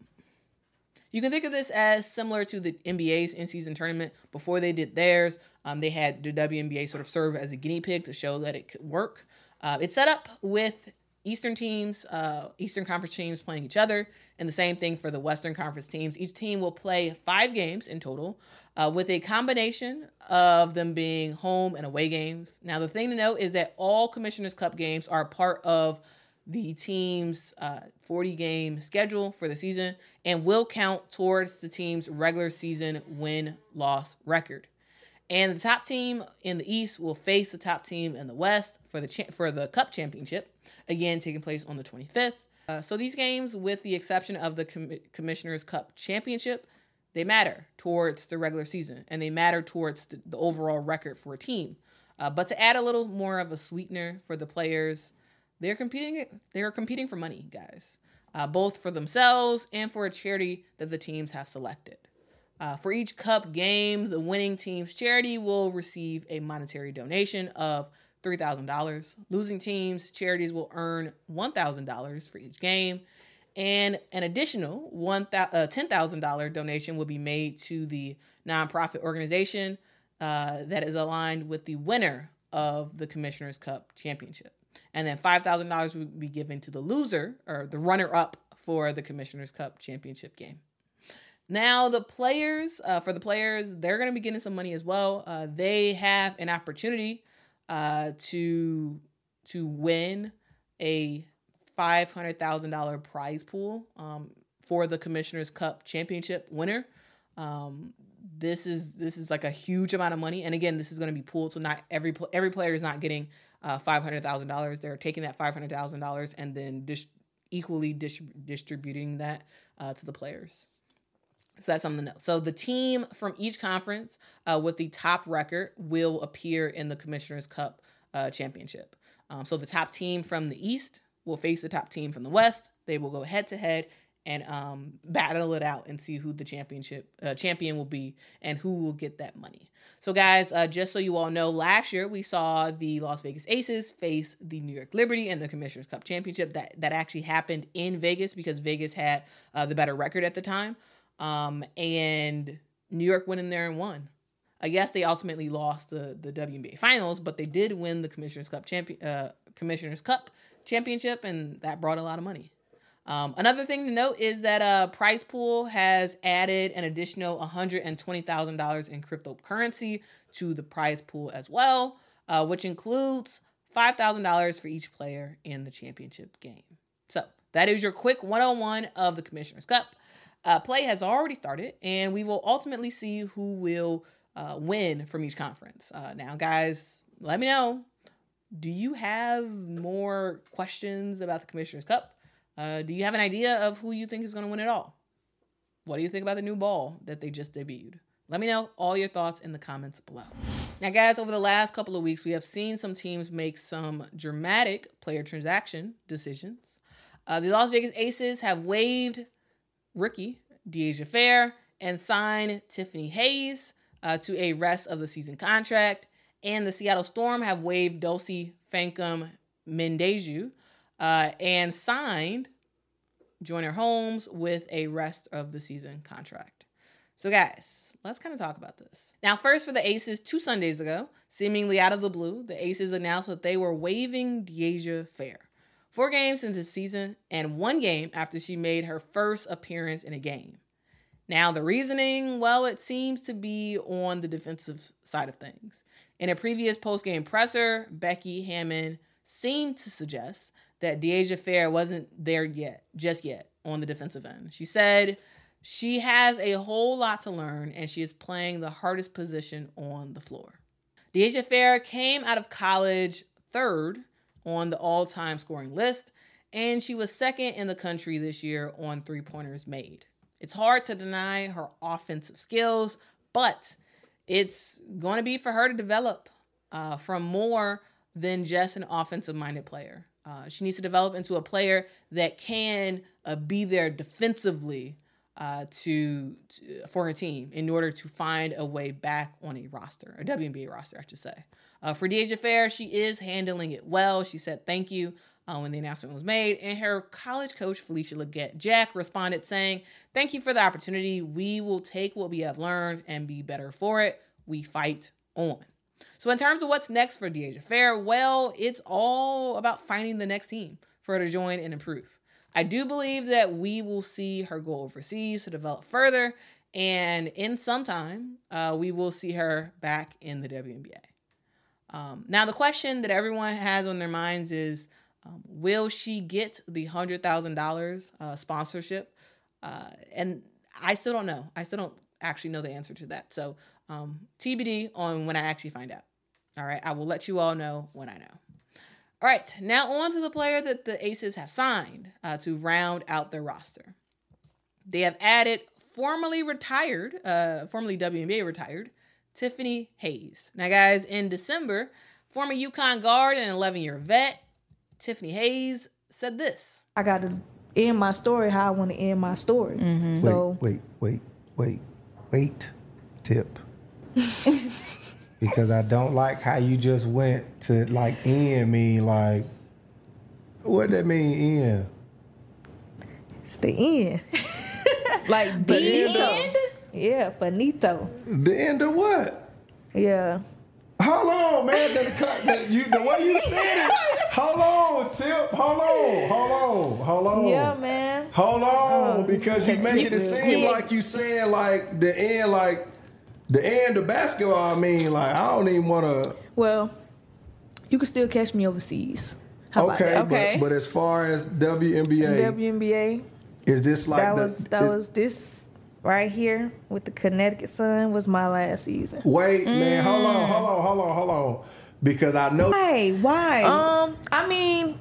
you can think of this as similar to the N B A's in-season tournament. Before they did theirs, um, they had the W N B A sort of serve as a guinea pig to show that it could work. Uh, it's set up with Eastern teams, uh, Eastern Conference teams playing each other, and the same thing for the Western Conference teams. Each team will play five games in total, uh, with a combination of them being home and away games. Now, the thing to note is that all Commissioner's Cup games are part of the team's uh, forty-game schedule for the season and will count towards the team's regular season win-loss record. And the top team in the East will face the top team in the West for the cha- for the Cup Championship, again taking place on the twenty-fifth. Uh, so these games, with the exception of the Com- Commissioner's Cup Championship, they matter towards the regular season, and they matter towards the, the overall record for a team. Uh, but to add a little more of a sweetener for the players, they're competing. They're competing for money, guys, uh, both for themselves and for a charity that the teams have selected. Uh, for each Cup game, the winning team's charity will receive a monetary donation of three thousand dollars. Losing teams' charities will earn one thousand dollars for each game, and an additional one uh, ten thousand dollars donation will be made to the nonprofit organization uh, that is aligned with the winner of the Commissioner's Cup Championship. And then five thousand dollars will be given to the loser, or the runner-up, for the Commissioner's Cup Championship game. Now, the players, uh, for the players, they're going to be getting some money as well. Uh, they have an opportunity uh, to to win a five hundred thousand dollars prize pool um, for the Commissioner's Cup Championship winner. Um, this is this is like a huge amount of money, and again, this is going to be pooled, so not every every player is not getting uh, five hundred thousand dollars. They're taking that five hundred thousand dollars and then dis- equally dis- distributing that uh, to the players. So that's something to know. So the team from each conference uh, with the top record will appear in the Commissioner's Cup uh, Championship. Um, so the top team from the East will face the top team from the West. They will go head to head and um, battle it out and see who the championship uh, champion will be and who will get that money. So guys, uh, just so you all know, last year we saw the Las Vegas Aces face the New York Liberty in the Commissioner's Cup Championship. That that actually happened in Vegas because Vegas had uh, the better record at the time. Um, and New York went in there and won. I guess they ultimately lost the, the W N B A Finals, but they did win the Commissioner's Cup champion, uh, Commissioner's Cup Championship, and that brought a lot of money. Um, another thing to note is that uh, Prize Pool has added an additional one hundred twenty thousand dollars in cryptocurrency to the prize pool as well, uh, which includes five thousand dollars for each player in the championship game. So that is your quick one oh one of the Commissioner's Cup. Uh, play has already started, and we will ultimately see who will uh, win from each conference. Uh, now, guys, let me know. Do you have more questions about the Commissioner's Cup? Uh, do you have an idea of who you think is going to win it all? What do you think about the new ball that they just debuted? Let me know all your thoughts in the comments below. Now, guys, over the last couple of weeks, we have seen some teams make some dramatic player transaction decisions. Uh, the Las Vegas Aces have waived rookie De'Asia Fair and signed Tiffany Hayes uh, to a rest of the season contract. And the Seattle Storm have waived Dulcie Fankam Mendeju uh, and signed Joyner Holmes with a rest of the season contract. So guys, let's kind of talk about this. Now, first for the Aces, two Sundays ago, seemingly out of the blue, the Aces announced that they were waiving De'Asia Fair. Four games into the season and one game after she made her first appearance in a game. Now, the reasoning, well, it seems to be on the defensive side of things. In a previous post-game presser, Becky Hammon seemed to suggest that De'Asia Fair wasn't there yet, just yet, on the defensive end. She said she has a whole lot to learn and she is playing the hardest position on the floor. De'Asia Fair came out of college third on the all-time scoring list, and she was second in the country this year on three-pointers made. It's hard to deny her offensive skills, but it's going to be for her to develop uh, from more than just an offensive-minded player. Uh, she needs to develop into a player that can uh, be there defensively uh, to, to for her team in order to find a way back on a roster, a W N B A roster, I should say. Uh, for Dejah Fair, she is handling it well. She said thank you uh, when the announcement was made. And her college coach, Felicia Legette-Jack, responded saying, thank you for the opportunity. We will take what we have learned and be better for it. We fight on. So in terms of what's next for Dejah Fair, well, it's all about finding the next team for her to join and improve. I do believe that we will see her go overseas to develop further. And in some time, uh, we will see her back in the W N B A. Um, now, the question that everyone has on their minds is, um, will she get the one hundred thousand dollars uh, sponsorship? Uh, and I still don't know. I still don't actually know the answer to that. So um, T B D on when I actually find out. All right. I will let you all know when I know. All right. Now on to the player that the Aces have signed uh, to round out their roster. They have added formerly retired, uh, formerly W N B A retired, Tiffany Hayes. Now, guys, in December, former UConn guard and eleven-year vet, Tiffany Hayes said this. I got to end my story how I want to end my story. Mm-hmm. So Wait, wait, wait, wait, wait, Tip. Because I don't like how you just went to, like, end me, like, what that mean, end? It's the end. Like, the end? end? Yeah, finito. The end of what? Yeah. Hold on, man. The, the, you, the way you said it. Hold on, Tip. Hold on. Hold on. Hold on. Yeah, man. Hold on, um, because you making it seem like you saying like the end, like the end of basketball. I mean, like I don't even want to. Well, you can still catch me overseas. How okay, about that? okay. But, but as far as W N B A, W N B A, is this like that the, was that is, was this right here with the Connecticut Sun was my last season. Wait, mm. man, hold on, hold on, hold on, hold on, because I know. Why? Why? Um, I mean,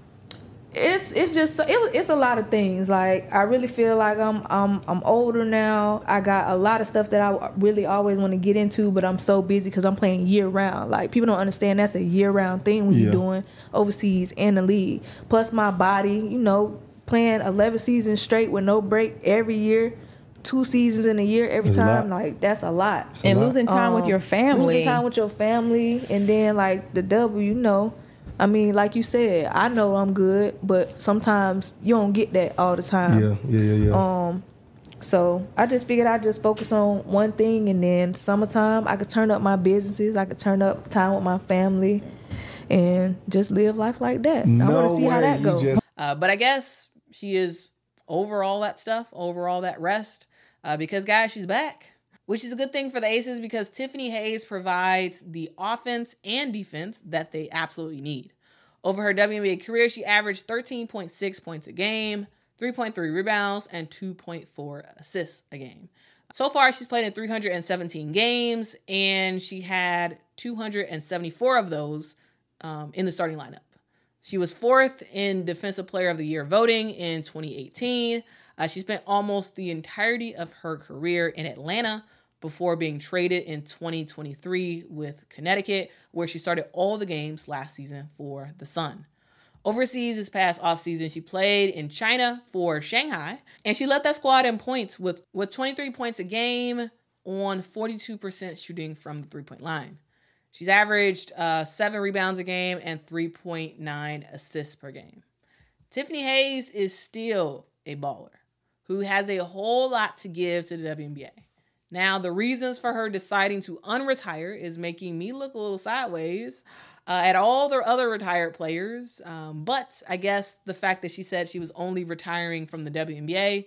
it's it's just it, it's a lot of things. Like I really feel like I'm I'm I'm older now. I got a lot of stuff that I really always want to get into, but I'm so busy because I'm playing year round. Like people don't understand that's a year round thing when yeah. you're doing overseas in the league. Plus my body, you know, playing eleven seasons straight with no break every year. Two seasons in a year every That's time, like that's a lot. That's and a lot. losing time um, with your family. Losing time with your family, and then like the W, you know. I mean, like you said, I know I'm good, but sometimes you don't get that all the time. Yeah, yeah, yeah, yeah. Um, so I just figured I'd just focus on one thing, and then summertime I could turn up my businesses, I could turn up time with my family, and just live life like that. No I want to see way, how that goes. Just- uh, but I guess she is over all that stuff, over all that rest. Uh, because, guys, she's back, which is a good thing for the Aces because Tiffany Hayes provides the offense and defense that they absolutely need. Over her W N B A career, she averaged thirteen point six points a game, three point three rebounds, and two point four assists a game. So far, she's played in three hundred seventeen games, and she had two hundred seventy-four of those um, in the starting lineup. She was fourth in Defensive Player of the Year voting in twenty eighteen. Uh, she spent almost the entirety of her career in Atlanta before being traded in twenty twenty-three with Connecticut, where she started all the games last season for the Sun. Overseas this past offseason, she played in China for Shanghai, and she led that squad in points with, with twenty-three points a game on forty-two percent shooting from the three-point line. She's averaged uh, seven rebounds a game and three point nine assists per game. Tiffany Hayes is still a baller who has a whole lot to give to the W N B A. Now, the reasons for her deciding to unretire is making me look a little sideways uh, at all the other retired players. Um, but I guess the fact that she said she was only retiring from the W N B A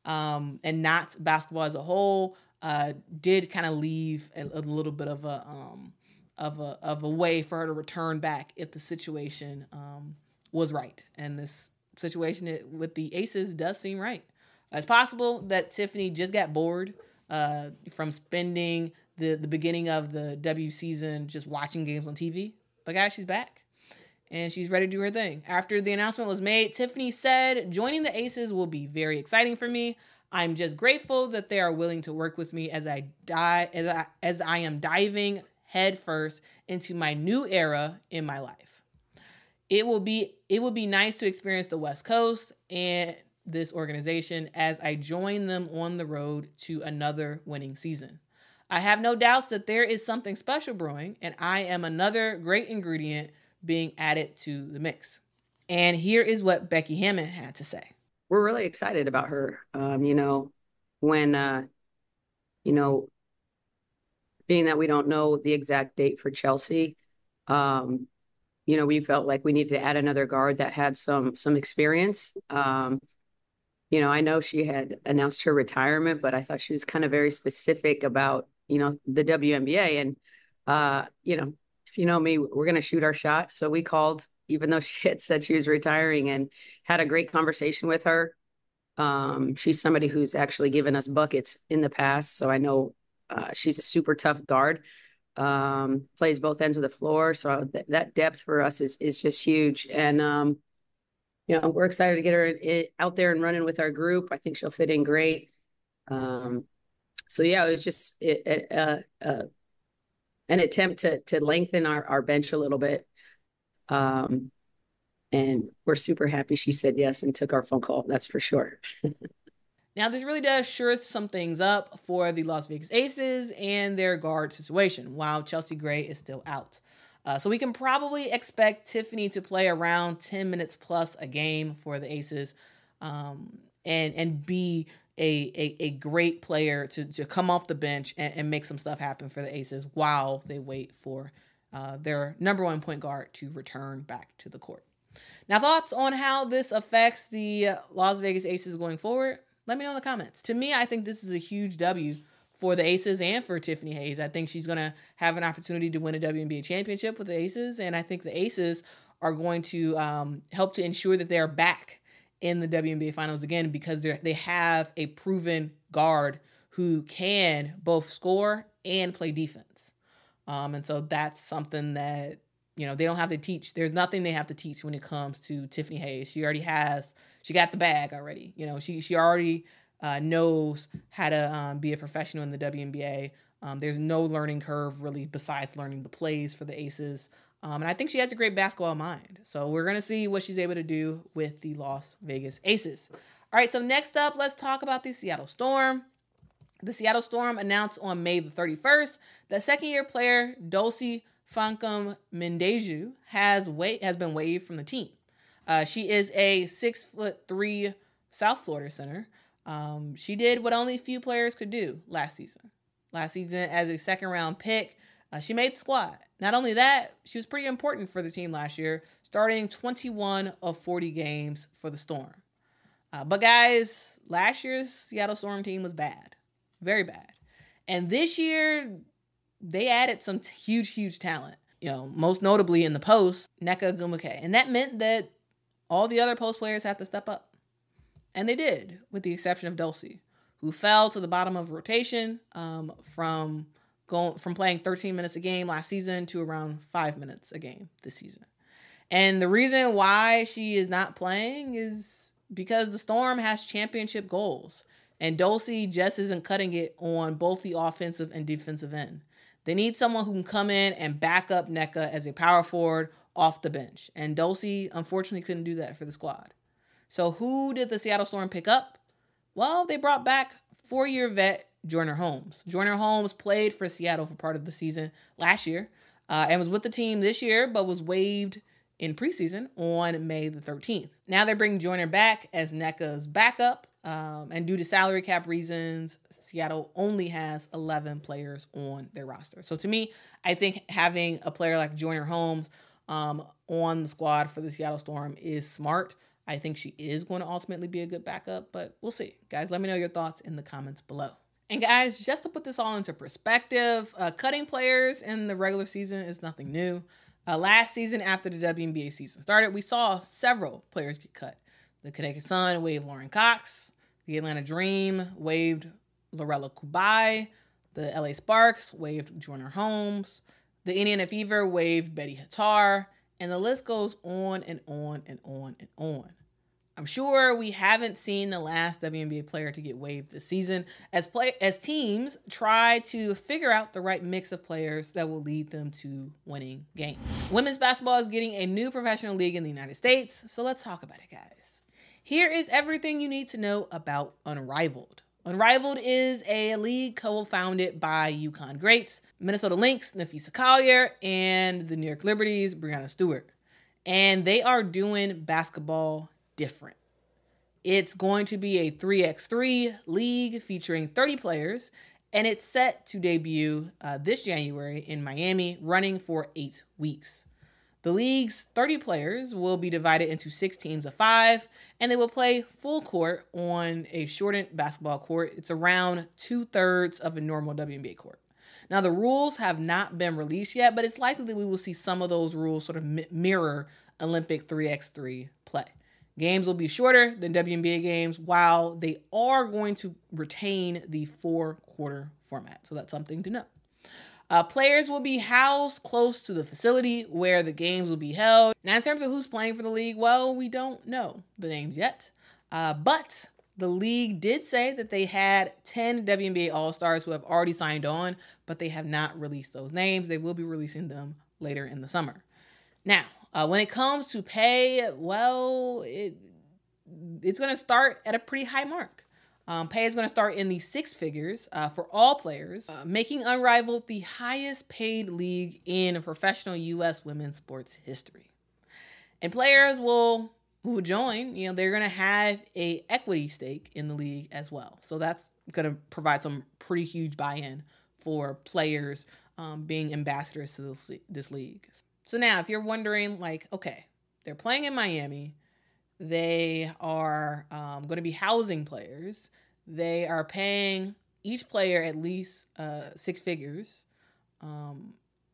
um, and not basketball as a whole uh, did kind of leave a, a little bit of a um, of a of a way for her to return back if the situation um, was right. And this situation with the Aces does seem right. It's possible that Tiffany just got bored uh, from spending the, the beginning of the W season just watching games on T V. But guys, she's back and she's ready to do her thing. After the announcement was made, Tiffany said, joining the Aces will be very exciting for me. I'm just grateful that they are willing to work with me as I die as I, as I am diving headfirst into my new era in my life. It will be it will be nice to experience the West Coast and this organization as I join them on the road to another winning season. I have no doubts that there is something special brewing, and I am another great ingredient being added to the mix. And here is what Becky Hammon had to say. We're really excited about her. Um, you know, when, uh, you know, being that we don't know the exact date for Chelsea, um, you know, we felt like we needed to add another guard that had some some experience. Um, you know, I know she had announced her retirement, but I thought she was kind of very specific about, you know, the W N B A. And, uh, you know, if you know me, we're going to shoot our shot. So we called, even though she had said she was retiring, and had a great conversation with her. Um, she's somebody who's actually given us buckets in the past. So I know uh, she's a super tough guard, um, plays both ends of the floor. So th- that depth for us is, is just huge. And, um, you know, we're excited to get her in, out there and running with our group. I think she'll fit in great. Um, so yeah, it was just it, it, uh, uh, an attempt to, to lengthen our, our bench a little bit. Um, and we're super happy she said yes and took our phone call. That's for sure. Now, this really does shore some things up for the Las Vegas Aces and their guard situation, while Chelsea Gray is still out. Uh, so we can probably expect Tiffany to play around ten minutes plus a game for the Aces, um, and and be a, a, a great player to, to come off the bench and, and make some stuff happen for the Aces while they wait for uh, their number one point guard to return back to the court. Now, thoughts on how this affects the Las Vegas Aces going forward? Let me know in the comments. To me, I think this is a huge W for the Aces and for Tiffany Hayes. I think she's going to have an opportunity to win a W N B A championship with the Aces, and I think the Aces are going to um, help to ensure that they're back in the W N B A Finals again, because they they have a proven guard who can both score and play defense. Um, and so that's something that, you know, they don't have to teach. There's nothing they have to teach when it comes to Tiffany Hayes. She already has, she got the bag already. You know, she she already uh, knows how to um, be a professional in the W N B A. Um, there's no learning curve really besides learning the plays for the Aces. Um, and I think she has a great basketball mind. So we're going to see what she's able to do with the Las Vegas Aces. All right, so next up, let's talk about the Seattle Storm. The Seattle Storm announced on May the thirty-first that second-year player Dulcy Fancam Mendeju has wa- has been waived from the team. Uh, she is a six foot three South Florida center. Um, she did what only few players could do last season. Last season, as a second round pick, uh, she made the squad. Not only that, she was pretty important for the team last year, starting twenty-one of forty games for the Storm. Uh, but guys, last year's Seattle Storm team was bad, very bad. And this year, they added some t- huge, huge talent. You know, most notably in the post, Nneka Ogwumike. And that meant that all the other post players had to step up. And they did, with the exception of Dulcy, who fell to the bottom of rotation um, from going from playing thirteen minutes a game last season to around five minutes a game this season. And the reason why she is not playing is because the Storm has championship goals. And Dulcy just isn't cutting it on both the offensive and defensive end. They need someone who can come in and back up Nneka as a power forward off the bench. And Dulcy, unfortunately, couldn't do that for the squad. So who did the Seattle Storm pick up? Well, they brought back four-year vet Joyner Holmes. Joyner Holmes played for Seattle for part of the season last year uh, and was with the team this year, but was waived in preseason on May the thirteenth. Now they're bringing Joyner back as Nneka's backup. Um, and due to salary cap reasons, Seattle only has eleven players on their roster. So to me, I think having a player like Joyner Holmes um, on the squad for the Seattle Storm is smart. I think she is going to ultimately be a good backup, but we'll see. Guys, let me know your thoughts in the comments below. And guys, just to put this all into perspective, uh, cutting players in the regular season is nothing new. Uh, last season, after the W N B A season started, we saw several players get cut. The Connecticut Sun waived Lauren Cox. The Atlanta Dream waived Lorella Kubai. The L A Sparks waived Joyner Holmes. The Indiana Fever waived Betty Hattar. And the list goes on and on and on and on. I'm sure we haven't seen the last W N B A player to get waived this season as play as teams try to figure out the right mix of players that will lead them to winning games. Women's basketball is getting a new professional league in the United States, so let's talk about it, guys. here is everything you need to know about Unrivaled. Unrivaled is a league co-founded by UConn greats, Minnesota Lynx, Napheesa Collier, and the New York Liberty's Breanna Stewart. And they are doing basketball different. It's going to be a three by three league featuring thirty players, and it's set to debut uh, this January in Miami, running for eight weeks. The league's thirty players will be divided into six teams of five, and they will play full court on a shortened basketball court. It's around two-thirds of a normal W N B A court. Now, the rules have not been released yet, but it's likely that we will see some of those rules sort of mirror Olympic three by three play. Games will be shorter than W N B A games, while they are going to retain the four-quarter format. So that's something to know. Uh, players will be housed close to the facility where the games will be held. Now, in terms of who's playing for the league, well, we don't know the names yet. Uh, but the league did say that they had ten W N B A All-Stars who have already signed on, but they have not released those names. They will be releasing them later in the summer. Now, uh, when it comes to pay, well, it, it's going to start at a pretty high mark. Um, pay is going to start in the six figures uh, for all players, uh, making Unrivaled the highest paid league in professional U S women's sports history. And players will who join, you know, they're going to have a equity stake in the league as well. So that's going to provide some pretty huge buy-in for players um, being ambassadors to this, this league. So now, if you're wondering, like, okay, they're playing in Miami. They are um, going to be housing players. They are paying each player at least uh, six figures. Um,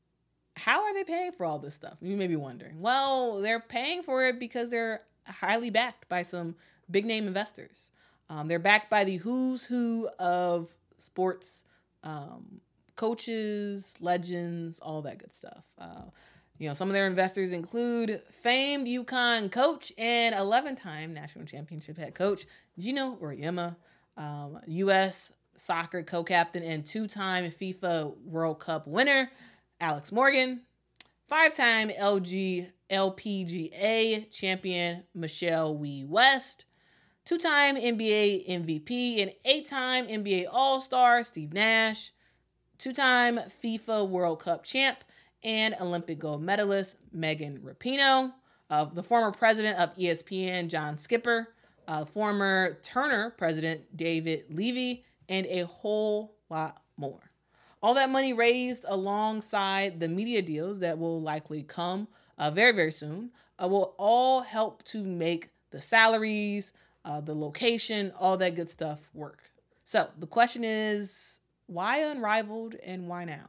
how are they paying for all this stuff? You may be wondering. Well, they're paying for it because they're highly backed by some big name investors. Um, they're backed by the who's who of sports, um, coaches, legends, all that good stuff. Uh, You know, some of their investors include famed UConn coach and eleven-time national championship head coach Geno Auriemma, um, U S soccer co-captain and two-time FIFA World Cup winner Alex Morgan, five-time L G L P G A champion Michelle Wie West, two-time N B A M V P and eight-time N B A All-Star Steve Nash, two-time FIFA World Cup champ and Olympic gold medalist Megan Rapinoe, uh, the former president of E S P N, John Skipper, uh, former Turner president, David Levy, and a whole lot more. All that money raised alongside the media deals that will likely come uh, very, very soon uh, will all help to make the salaries, uh, the location, all that good stuff work. So the question is, why Unrivaled and why now?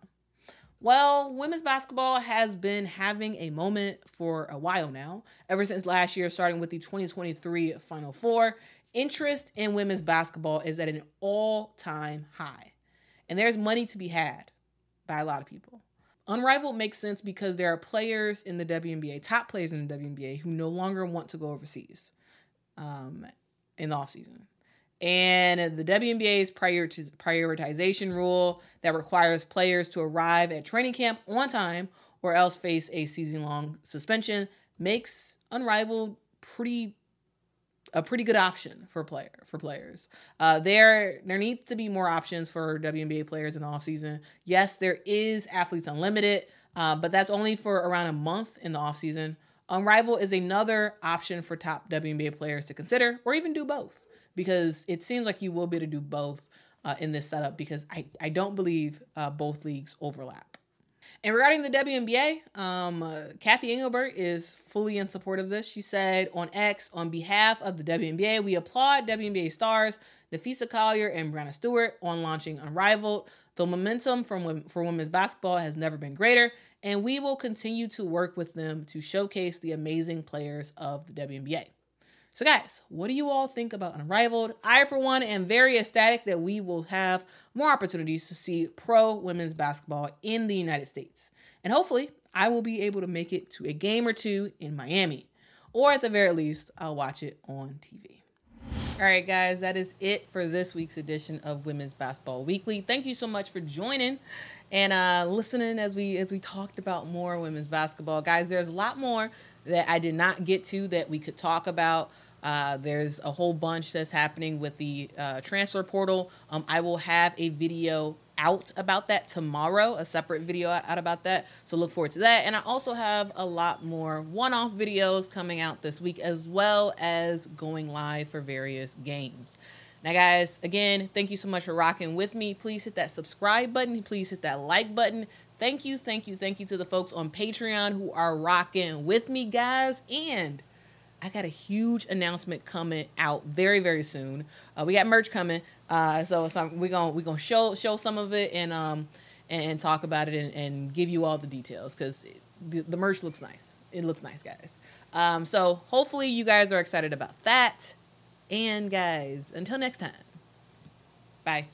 Well, women's basketball has been having a moment for a while now. Ever since last year, starting with the twenty twenty-three Final Four, interest in women's basketball is at an all-time high. And there's money to be had by a lot of people. Unrivaled makes sense because there are players in the W N B A, top players in the W N B A, who no longer want to go overseas um, in the offseason. And the W N B A's prioritization rule that requires players to arrive at training camp on time or else face a season-long suspension makes Unrivaled pretty a pretty good option for player for players. Uh, there there needs to be more options for W N B A players in the offseason. Yes, there is Athletes Unlimited, uh, but that's only for around a month in the offseason. Unrivaled is another option for top W N B A players to consider, or even do both, because it seems like you will be able to do both uh, in this setup, because I, I don't believe uh, both leagues overlap. And regarding the W N B A, um, uh, Kathy Engelbert is fully in support of this. She said on X, on behalf of the W N B A, we applaud W N B A stars Napheesa Collier and Breanna Stewart on launching Unrivaled. The momentum from for women's basketball has never been greater, and we will continue to work with them to showcase the amazing players of the W N B A. So guys, what do you all think about Unrivaled? I, for one, am very ecstatic that we will have more opportunities to see pro women's basketball in the United States. And hopefully, I will be able to make it to a game or two in Miami. Or at the very least, I'll watch it on T V. All right, guys, that is it for this week's edition of Women's Basketball Weekly. Thank you so much for joining. and uh, listening as we as we talked about more women's basketball. Guys, there's a lot more that I did not get to that we could talk about. Uh, there's a whole bunch that's happening with the uh, transfer portal. Um, I will have a video out about that tomorrow, a separate video out about that. So look forward to that. And I also have a lot more one-off videos coming out this week, as well as going live for various games. Now, guys, again, thank you so much for rocking with me. Please hit that subscribe button. Please hit that like button. Thank you, thank you, thank you to the folks on Patreon who are rocking with me, guys. And I got a huge announcement coming out very, very soon. Uh, we got merch coming, uh, so some, we're gonna we're gonna show show some of it and um and talk about it and, and give you all the details, because the, the merch looks nice. It looks nice, guys. Um, so hopefully you guys are excited about that. And guys, until next time, bye.